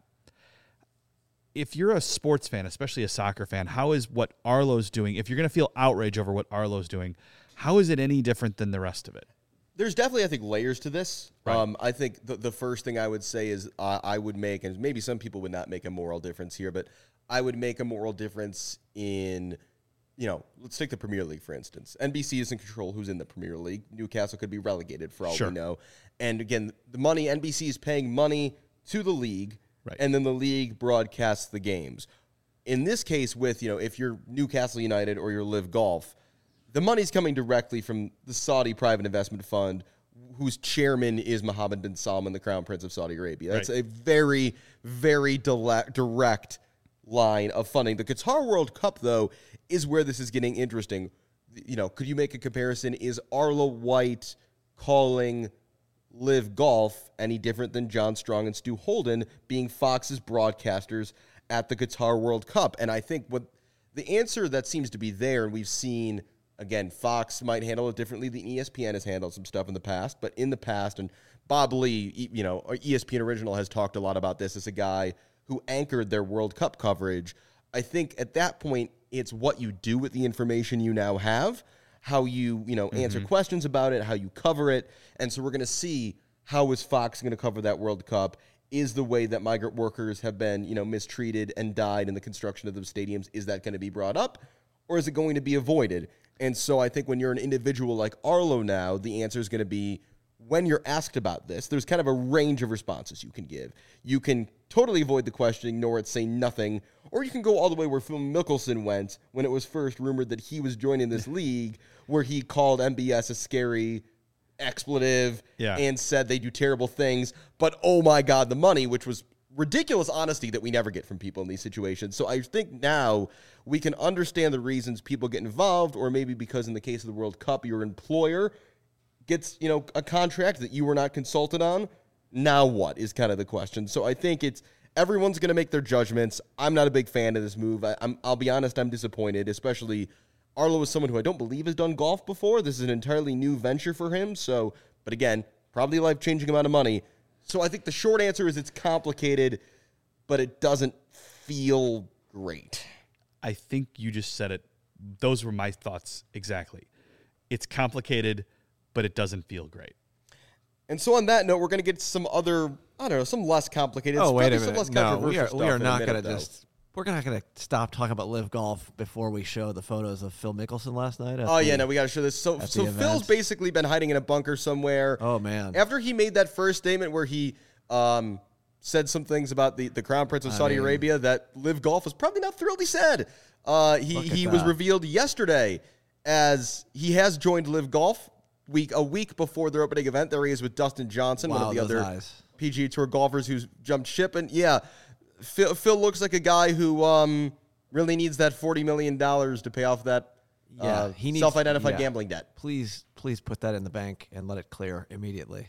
If you're a sports fan, especially a soccer fan, how is what Arlo's doing, if you're going to feel outrage over what Arlo's doing, how is it any different than the rest of it? There's definitely, I think, layers to this. Right. Um, I think the, the first thing I would say is uh, I would make, and maybe some people would not make a moral difference here, but I would make a moral difference in, you know, let's take the Premier League, for instance. N B C is in control who's in the Premier League. Newcastle could be relegated for all Sure. we know. And again, the money, N B C is paying money to the league, Right. and then the league broadcasts the games. In this case, with, you know, if you're Newcastle United or you're Live Golf, the money's coming directly from the Saudi private investment fund, whose chairman is Mohammed bin Salman, the Crown Prince of Saudi Arabia. That's Right. a very, very dile- direct line of funding. The Qatar World Cup, though, is where this is getting interesting. You know, could you make a comparison? Is Arlo White calling Live Golf any different than John Strong and Stu Holden being Fox's broadcasters at the Qatar World Cup? And I think what the answer that seems to be there, and we've seen, again, Fox might handle it differently than E S P N has handled some stuff in the past, but in the past, and Bob Lee, you know, E S P N Original has talked a lot about this as a guy who anchored their World Cup coverage. I think at that point, it's what you do with the information you now have, how you, you know, answer mm-hmm. questions about it, how you cover it. And so we're going to see how is Fox going to cover that World Cup. Is the way that migrant workers have been, you know, mistreated and died in the construction of those stadiums, is that going to be brought up, or is it going to be avoided? And so I think when you're an individual like Arlo now, the answer is going to be, when you're asked about this, there's kind of a range of responses you can give. You can totally avoid the question, ignore it, say nothing, or you can go all the way where Phil Mickelson went when it was first rumored that he was joining this league, where he called M B S a scary expletive yeah. and said they do terrible things, but oh my God, the money, which was ridiculous honesty that we never get from people in these situations. So I think now we can understand the reasons people get involved, or maybe because in the case of the World Cup, your employer gets, you know, a contract that you were not consulted on. Now what is kind of the question. So I think it's everyone's going to make their judgments. I'm not a big fan of this move. I, I'm, I'll be honest, I'm disappointed, especially Arlo is someone who I don't believe has done golf before. This is an entirely new venture for him. So, but again, probably a life-changing amount of money. So I think the short answer is it's complicated, but it doesn't feel great. I think you just said it. Those were my thoughts exactly. It's complicated, but it doesn't feel great. And so on that note, we're going to get to some other, I don't know, some less complicated. Oh, wait a some minute. less No, we are, controversial we are stuff not in a going minute, to though. just, we're not going to stop talking about Live Golf before we show the photos of Phil Mickelson last night. Oh, the, yeah, no, we got to show this. So, at so the Phil's event. basically been hiding in a bunker somewhere. Oh, man. After he made that first statement where he um, said some things about the, the Crown Prince of I Saudi mean- Arabia that Live Golf was probably not thrilled he said. Uh, he Look at he was that. revealed yesterday as he has joined Live Golf week a week before their opening event. There he is with Dustin Johnson, one Wow, of the those other eyes. P G A Tour golfers who's jumped ship. And yeah, Phil, Phil looks like a guy who um, really needs that forty million dollars to pay off that Yeah, uh, he needs- self-identified yeah. gambling debt. Please, please put that in the bank and let it clear immediately.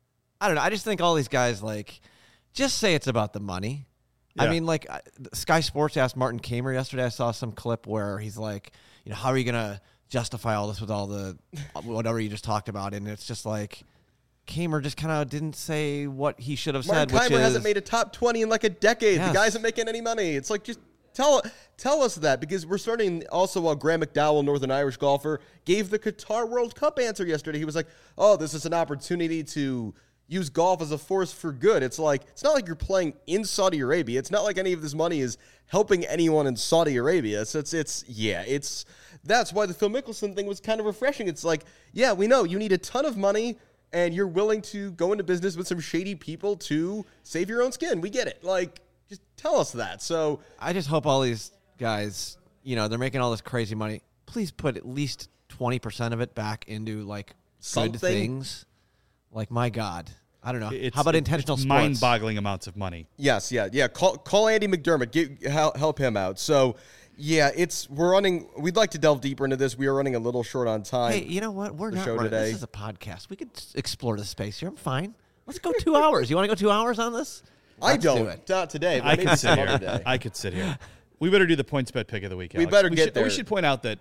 I don't know. I just think all these guys, like, just say it's about the money. I Yeah. mean, like, I- Sky Sports asked Martin Kamer yesterday. I saw some clip where he's like, you know, how are you going to justify all this with all the whatever you just talked about? And it's just like, Kamer just kind of didn't say what he should have Martin said, which Keimer is, hasn't made a top twenty in like a decade. Yes. The guy isn't making any money. It's like, just tell tell us that, because we're starting also while Graham McDowell, Northern Irish golfer, gave the Qatar World Cup answer yesterday. He was like, oh, this is an opportunity to use golf as a force for good. It's like, it's not like you're playing in Saudi Arabia. It's not like any of this money is helping anyone in Saudi Arabia. So it's, it's yeah, it's, that's why the Phil Mickelson thing was kind of refreshing. It's like, yeah, we know you need a ton of money and you're willing to go into business with some shady people to save your own skin. We get it. Like, just tell us that. So I just hope all these guys, you know, they're making all this crazy money. Please put at least twenty percent of it back into, like, Something. good things. Like, my God. I don't know. It's, How about it's intentional sports? mind-boggling amounts of money. yes, yeah, yeah. Call call Andy McDermott. Get, help, help him out. So yeah, it's we're running. We'd like to delve deeper into this. We are running a little short on time. Hey, you know what? We're the not show running. today. This is a podcast. We could s- explore the space here. I'm fine. Let's go two hours. You want to go two hours on this? I Let's don't. do it. Not today. But I maybe could some sit other here. day. I could sit here. We better do the points bet pick of the week. We Alex. better get should, there. We should point out that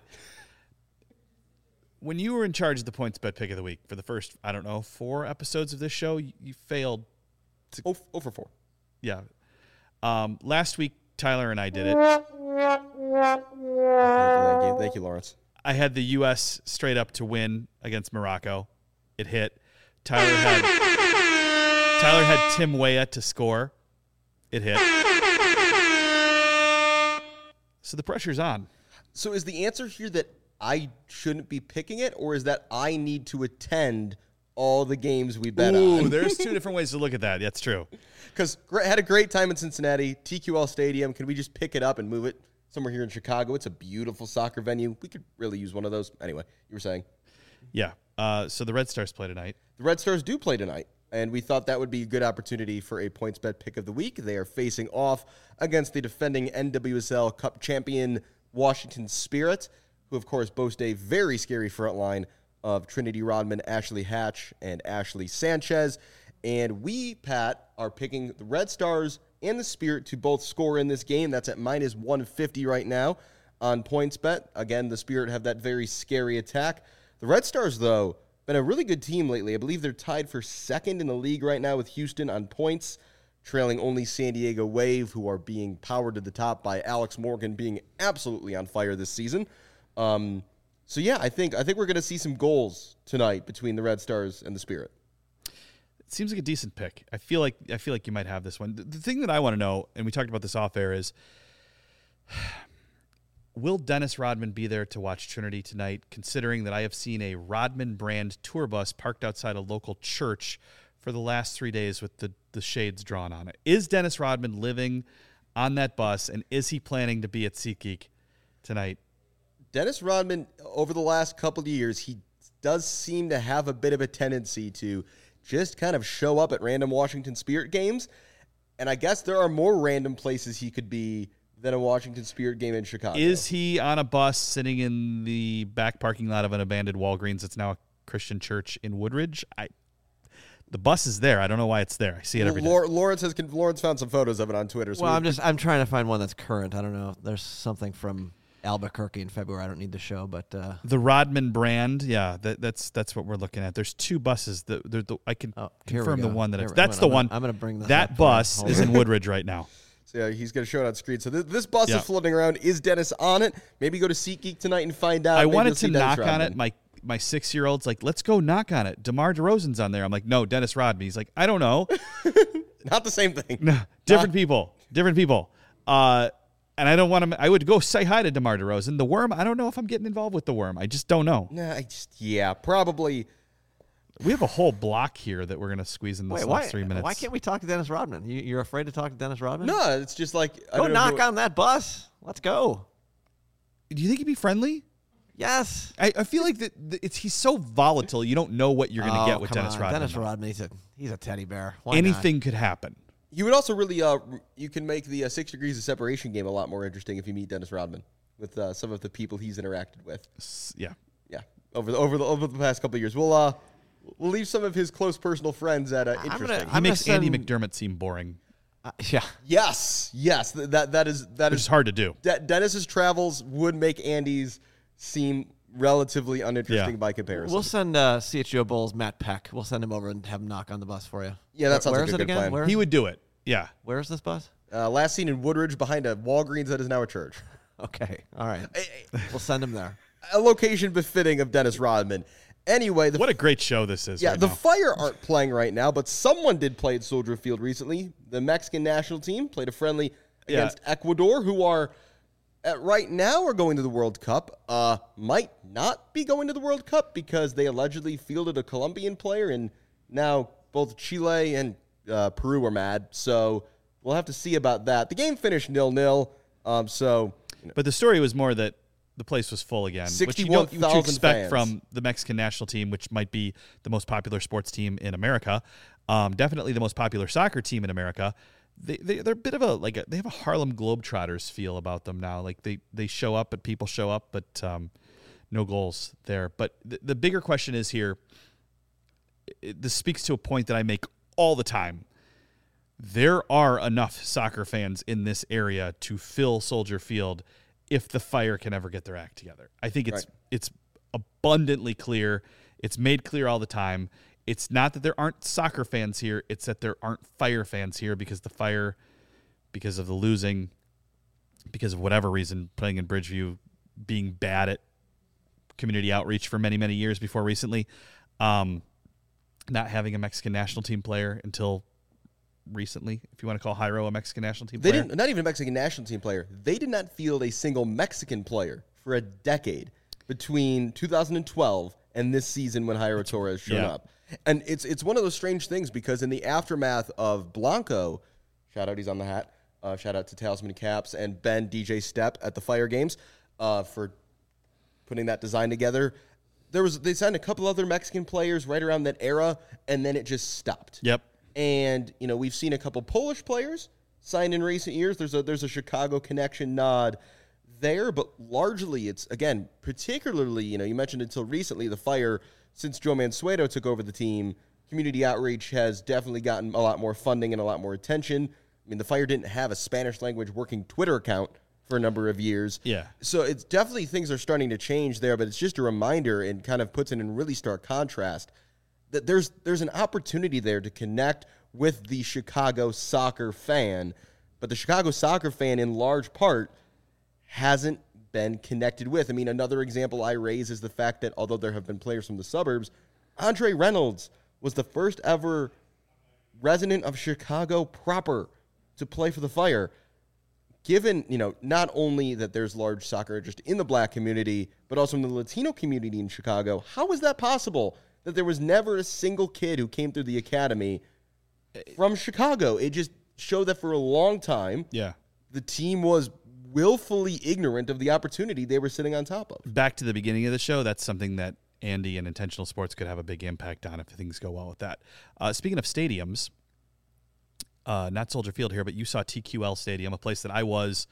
when you were in charge of the points bet pick of the week for the first, I don't know, four episodes of this show, you, you failed. Oh, oh for four. Yeah. Um, last week, Tyler and I did it. Thank you, thank you, Lawrence. I had the U S straight up to win against Morocco. It hit. Tyler had Tyler had Tim Weah to score. It hit. So the pressure's on. So is the answer here that I shouldn't be picking it, or is that I need to attend all the games we bet Ooh, on? there's two different ways to look at that. That's true. Because had a great time in Cincinnati, T Q L Stadium. Can we just pick it up and move it somewhere here in Chicago? It's a beautiful soccer venue. We could really use one of those. Anyway, you were saying. Yeah. Uh, so the Red Stars play tonight. The Red Stars do play tonight, and we thought that would be a good opportunity for a points bet pick of the week. They are facing off against the defending N W S L Cup champion Washington Spirit, who, of course, boast a very scary front line of Trinity Rodman, Ashley Hatch, and Ashley Sanchez. And we, Pat, are picking the Red Stars and the Spirit to both score in this game. That's at minus one fifty right now on PointsBet. Again, the Spirit have that very scary attack. The Red Stars, though, been a really good team lately. I believe they're tied for second in the league right now with Houston on points, trailing only San Diego Wave, who are being powered to the top by Alex Morgan being absolutely on fire this season. Um, so, yeah, I think I think we're going to see some goals tonight between the Red Stars and the Spirit. It seems like a decent pick. I feel like I feel like you might have this one. The, the thing that I want to know, and we talked about this off air, is will Dennis Rodman be there to watch Trinity tonight, considering that I have seen a Rodman brand tour bus parked outside a local church for the last three days with the, the shades drawn on it? Is Dennis Rodman living on that bus, and is he planning to be at SeatGeek tonight? Dennis Rodman, over the last couple of years, he does seem to have a bit of a tendency to just kind of show up at random Washington Spirit games. And I guess there are more random places he could be than a Washington Spirit game in Chicago. Is he on a bus sitting in the back parking lot of an abandoned Walgreens that's now a Christian church in Woodridge? I, the bus is there. I don't know why it's there. I see it every day. Lawrence has Lawrence found some photos of it on Twitter. So well, we, I'm just I'm trying to find one that's current. I don't know. There's something from Albuquerque in February. I don't need the show, but uh, the Rodman brand, yeah, that, that's that's what we're looking at. There's two buses. The, the, the I can oh, confirm the go. one that Here, it's. That's I'm the gonna, one. I'm going to bring this that up bus Hold is on. in Woodridge right now. So yeah, he's going to show it on screen. So th- this bus Yeah. is floating around. Is Dennis on it? Maybe go to SeatGeek tonight and find out. I Maybe wanted you'll to see Dennis knock on Rodman. it. My my six year old's like, let's go knock on it. DeMar DeRozan's on there. I'm like, no, Dennis Rodman. He's like, I don't know. Not the same thing. No, different people. Different people. Uh, and I don't want to. I would go say hi to DeMar DeRozan. The Worm. I don't know if I'm getting involved with the Worm. I just don't know. Nah, I just yeah, probably. We have a whole block here that we're gonna squeeze in this Wait, last why, three minutes. why can't we talk to Dennis Rodman? You, you're afraid to talk to Dennis Rodman? No, it's just like I Go don't know knock who- on that bus. Let's go. Do you think he'd be friendly? Yes. I, I feel like that that it's he's so volatile. You don't know what you're going to Oh, get with come Dennis on. Rodman. Dennis though. Rodman, he's a, he's a teddy bear. Why not? Anything could happen. You would also really uh you can make the uh, six degrees of separation game a lot more interesting if you meet Dennis Rodman with uh, some of the people he's interacted with. S- Yeah. Yeah, over the over the over the past couple of years, we'll uh we'll leave some of his close personal friends at uh, I'm gonna- interesting. He I'm makes gonna Andy send- McDermott seem boring, Uh, yeah. yes, yes, th- that that is that which is is hard to do. De- Dennis's travels would make Andy's seem relatively uninteresting Yeah. by comparison. We'll send uh, C H G O Bulls Matt Peck. We'll send him over and have him knock on the bus for you. Yeah, that sounds Where like is a it good again? plan. Where, He would do it. Yeah. where is this bus? uh, last seen in Woodridge behind a Walgreens that is now a church. Okay. All right. We'll send him there. A location befitting of Dennis Rodman. Anyway, the What a great show this is. Yeah, right the now. Fire aren't playing right now, but someone did play at Soldier Field recently. The Mexican national team played a friendly Yeah. against Ecuador, who are at right now are going to the World Cup. Uh, might not be going to the World Cup because they allegedly fielded a Colombian player, and now both Chile and uh, Peru are mad. So we'll have to see about that. The game finished nil-nil. Um, so But the story was more that the place was full again, which you, don't, which you sixty-one thousand expect fans. from the Mexican national team, which might be the most popular sports team in America. Um, definitely the most popular soccer team in America. They, they they're a bit of a like a, they have a Harlem Globetrotters feel about them now. Like they they show up, but people show up, but um, no goals there. But the, the bigger question is here. It, this speaks to a point that I make all the time. There are enough soccer fans in this area to fill Soldier Field if the Fire can ever get their act together. I think it's Right. it's abundantly clear. It's made clear all the time. It's not that there aren't soccer fans here. It's that there aren't Fire fans here because the Fire, because of the losing, because of whatever reason, playing in Bridgeview, being bad at community outreach for many, many years before recently, um, not having a Mexican national team player until recently, if you want to call Jairo a Mexican national team They player. didn't, not even a Mexican national team player. They did not field a single Mexican player for a decade between two thousand twelve and this season when Jairo Torres showed yeah. up. And it's it's one of those strange things because in the aftermath of Blanco, shout out, he's on the hat. Uh, shout out to Talisman Caps and Ben D J Step at the Fire Games uh, for putting that design together. There was they signed a couple other Mexican players right around that era, and then it just stopped. Yep. And, you know, we've seen a couple Polish players signed in recent years. There's a there's a Chicago connection nod there, but largely it's, again, particularly, you know, you mentioned until recently the Fire, since Joe Mansueto took over the team, community outreach has definitely gotten a lot more funding and a lot more attention. I mean, the Fire didn't have a Spanish language working Twitter account for a number of years. Yeah. So it's definitely things are starting to change there, but it's just a reminder and kind of puts it in really stark contrast that there's there's an opportunity there to connect with the Chicago soccer fan, but the Chicago soccer fan in large part hasn't been connected with. I mean, another example I raise is the fact that although there have been players from the suburbs, Andre Reynolds was the first ever resident of Chicago proper to play for the Fire. Given, you know, not only that there's large soccer interest in the black community, but also in the Latino community in Chicago, how is that possible that there was never a single kid who came through the academy from Chicago? It just showed that for a long time, Yeah. the team was willfully ignorant of the opportunity they were sitting on top of. Back to the beginning of the show, that's something that Andy and Intentional Sports could have a big impact on if things go well with that. Uh, speaking of stadiums, uh, not Soldier Field here, but you saw T Q L Stadium, a place that I was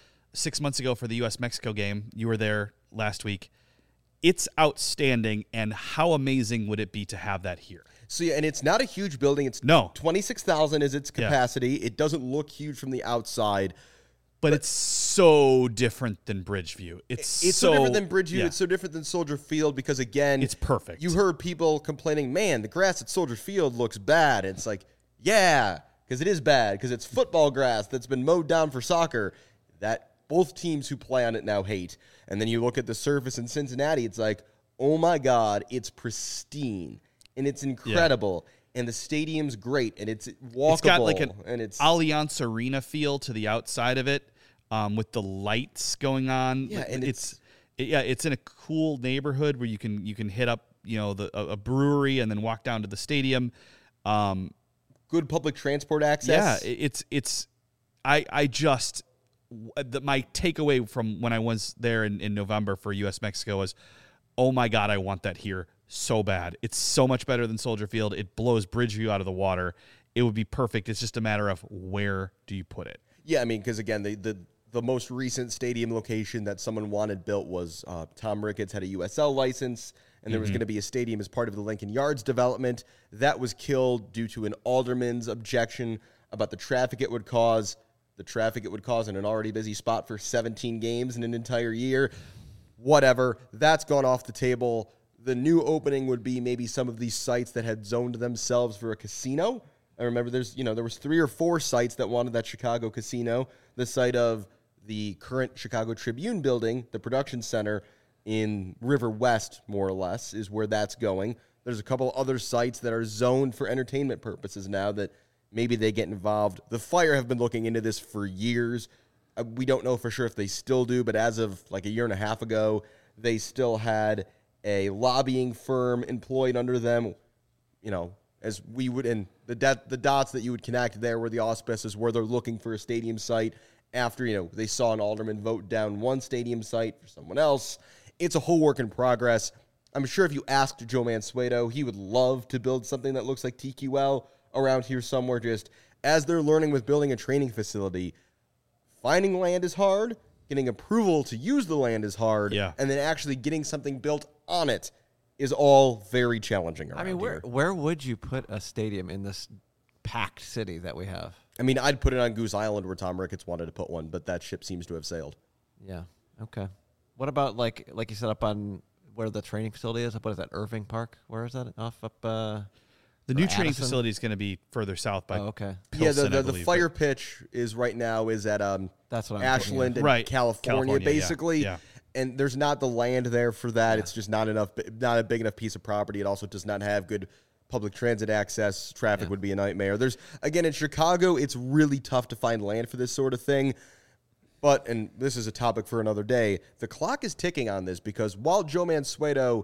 six months ago for the U S Mexico game. You were there last week. It's outstanding, and how amazing would it be to have that here? So, yeah, and it's not a huge building. It's No. twenty-six thousand is its Yeah. capacity. It doesn't look huge from the outside. But, it's so different than Bridgeview. It's, It's so, so different than Bridgeview. yeah. It's so different than Soldier Field because, again, It's perfect. You heard people complaining, man, the grass at Soldier Field looks bad. It's like, yeah, because it is bad, because it's football grass that's been mowed down for soccer that both teams who play on it now hate. And then you look at the surface in Cincinnati, it's like, oh my God, it's pristine and it's incredible. And the stadium's great and it's walkable. It's got like an and it's Allianz Arena feel to the outside of it, um, with the lights going on. Yeah, and it's, it, yeah, it's in a cool neighborhood where you can you can hit up you know the a, a brewery and then walk down to the stadium. Um, good public transport yeah, access. it- it's it's I I just the, my takeaway from when I was there in, in November for U S Mexico was, oh my God, I want that here so bad. It's so much better than Soldier Field. It blows Bridgeview out of the water. It would be perfect. It's just a matter of where do you put it. Yeah, I mean, because again, the, the the most recent stadium location that someone wanted built was uh, Tom Ricketts had a U S L license, and there was going to be a stadium as part of the Lincoln Yards development. That was killed due to an alderman's objection about the traffic it would cause. The traffic it would cause in an already busy spot for seventeen games in an entire year. Whatever. That's gone off the table. The new opening would be maybe some of these sites that had zoned themselves for a casino. I remember there's, you know, there was three or four sites that wanted that Chicago casino. The site of the current Chicago Tribune building, the production center in River West, more or less, is where that's going. There's a couple other sites that are zoned for entertainment purposes now that maybe they get involved. The Fire have been looking into this for years. Uh, we don't know for sure if they still do, but as of like a year and a half ago, they still had a lobbying firm employed under them, you know, as we would, and the de- the dots that you would connect there were the auspices where they're looking for a stadium site after, you know, they saw an alderman vote down one stadium site for someone else. It's a whole work in progress. I'm sure if you asked Joe Mansueto, he would love to build something that looks like T Q L around here somewhere. Just as they're learning with building a training facility, finding land is hard, getting approval to use the land is hard, Yeah. and then actually getting something built on it is all very challenging around I mean, where here. where would you put a stadium in this packed city that we have? I mean, I'd put it on Goose Island where Tom Ricketts wanted to put one, but that ship seems to have sailed. Yeah. Okay. What about like like you said up on where the training facility is? What is that? Irving Park? Where is that? Off up. Uh, The new or training Addison? facility is going to be further south by Oh, okay. yeah, the Pilsen, I the, the believe, fire but- pitch is right now is at um That's what I'm Ashland and Right, California, California, yeah, basically. yeah. And there's not the land there for that. It's just not enough, not a big enough piece of property. It also does not have good public transit access. Traffic Yeah. would be a nightmare. There's again in Chicago, it's really tough to find land for this sort of thing. But, and this is a topic for another day, the clock is ticking on this because while Joe Mansueto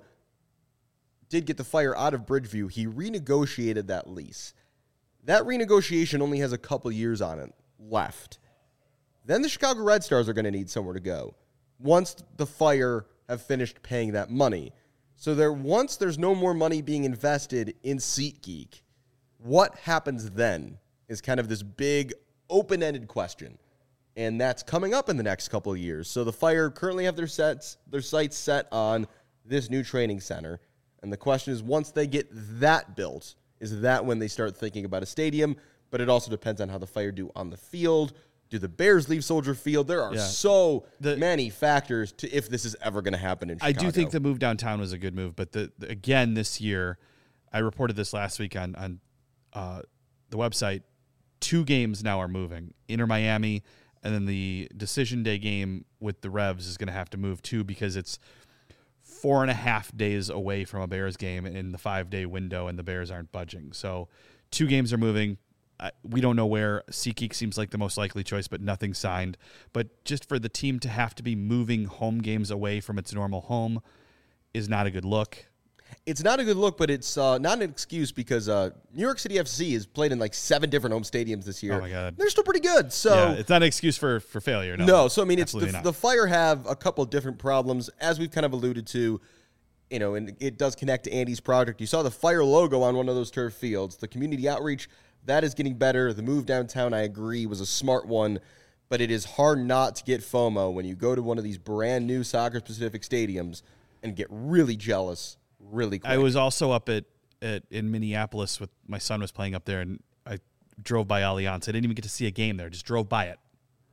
did get the Fire out of Bridgeview, he renegotiated that lease. That renegotiation only has a couple years on it left. Then the Chicago Red Stars are going to need somewhere to go once the Fire have finished paying that money. So there, once there's no more money being invested in SeatGeek, what happens then is kind of this big open-ended question. and that's coming up in the next couple of years. So the Fire currently have their sets, their sights set on this new training center, and the question is, once they get that built, is that when they start thinking about a stadium? But it also depends on how the Fire do on the field. Do the Bears leave Soldier Field? There are Yeah. so The- many factors to if this is ever going to happen in I Chicago. do think the move downtown was a good move, but the, the again this year, I reported this last week on on uh, the website. Two games now are moving. Inter Miami, and then the decision day game with the Revs is going to have to move too because it's four and a half days away from a Bears game in the five day window, and the Bears aren't budging. So two games are moving. I, we don't know where. SeatGeek seems like the most likely choice, but nothing signed. But just for the team to have to be moving home games away from its normal home is not a good look. It's not a good look, but it's uh, not an excuse because uh, New York City F C has played in like seven different home stadiums this year. Oh, my God. They're still pretty good. So Yeah, it's not an excuse for, for failure. No, No, so I mean, it's absolutely the, not. the Fire have a couple of different problems, as we've kind of alluded to, you know, and it does connect to Andy's project. You saw the Fire logo on one of those turf fields. The community outreach, that is getting better. The move downtown, I agree, was a smart one, but it is hard not to get FOMO when you go to one of these brand new soccer-specific stadiums and get really jealous really quick. I was also up at, at in Minneapolis with my son was playing up there, and I drove by Allianz. I didn't even get to see a game there. Just drove by it.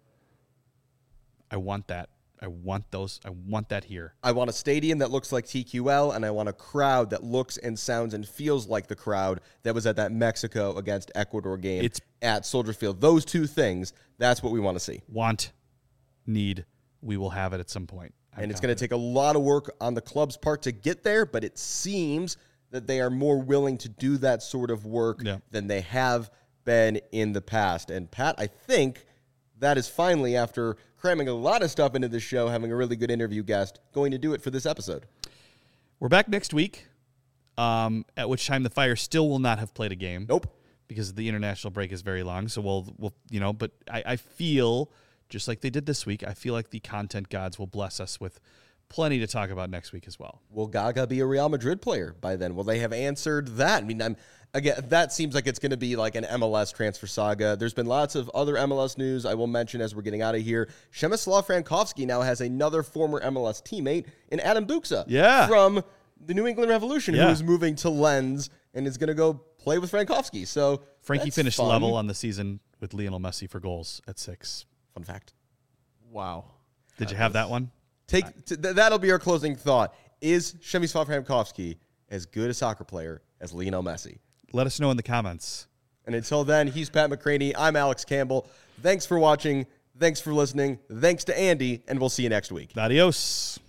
I want that. I want those. I want that here. I want a stadium that looks like T Q L, and I want a crowd that looks and sounds and feels like the crowd that was at that Mexico against Ecuador game It's- at Soldier Field. Those two things, that's what we want to see. Want, need, we will have it at some point. I'm And it's going to confident. take a lot of work on the club's part to get there, but it seems that they are more willing to do that sort of work Yeah. than they have been in the past. And Pat, I think that is finally, after cramming a lot of stuff into this show, having a really good interview guest, going to do it for this episode. We're back next week, um, at which time the Fire still will not have played a game. Nope. Because the international break is very long. So we'll, we'll you know, but I, I feel, just like they did this week, I feel like the content gods will bless us with plenty to talk about next week as well. Will Gaga be a Real Madrid player by then? Will they have answered that? I mean, I'm, again, that seems like it's going to be like an M L S transfer saga. There's been lots of other M L S news I will mention as we're getting out of here. Przemysław Frankowski now has another former M L S teammate in Adam Buksa Yeah. from the New England Revolution Yeah. who is moving to Lens and is going to go play with Frankowski. So Frankie that's finished fun. level on the season with Lionel Messi for goals at six. Fun fact. Wow. Did you have that one? Take t- th- that'll be our closing thought. Is Przemysław Frankowski as good a soccer player as Lionel Messi? Let us know in the comments. And until then, he's Pat McCraney. I'm Alex Campbell. Thanks for watching. Thanks for listening. Thanks to Andy, and we'll see you next week. Adios.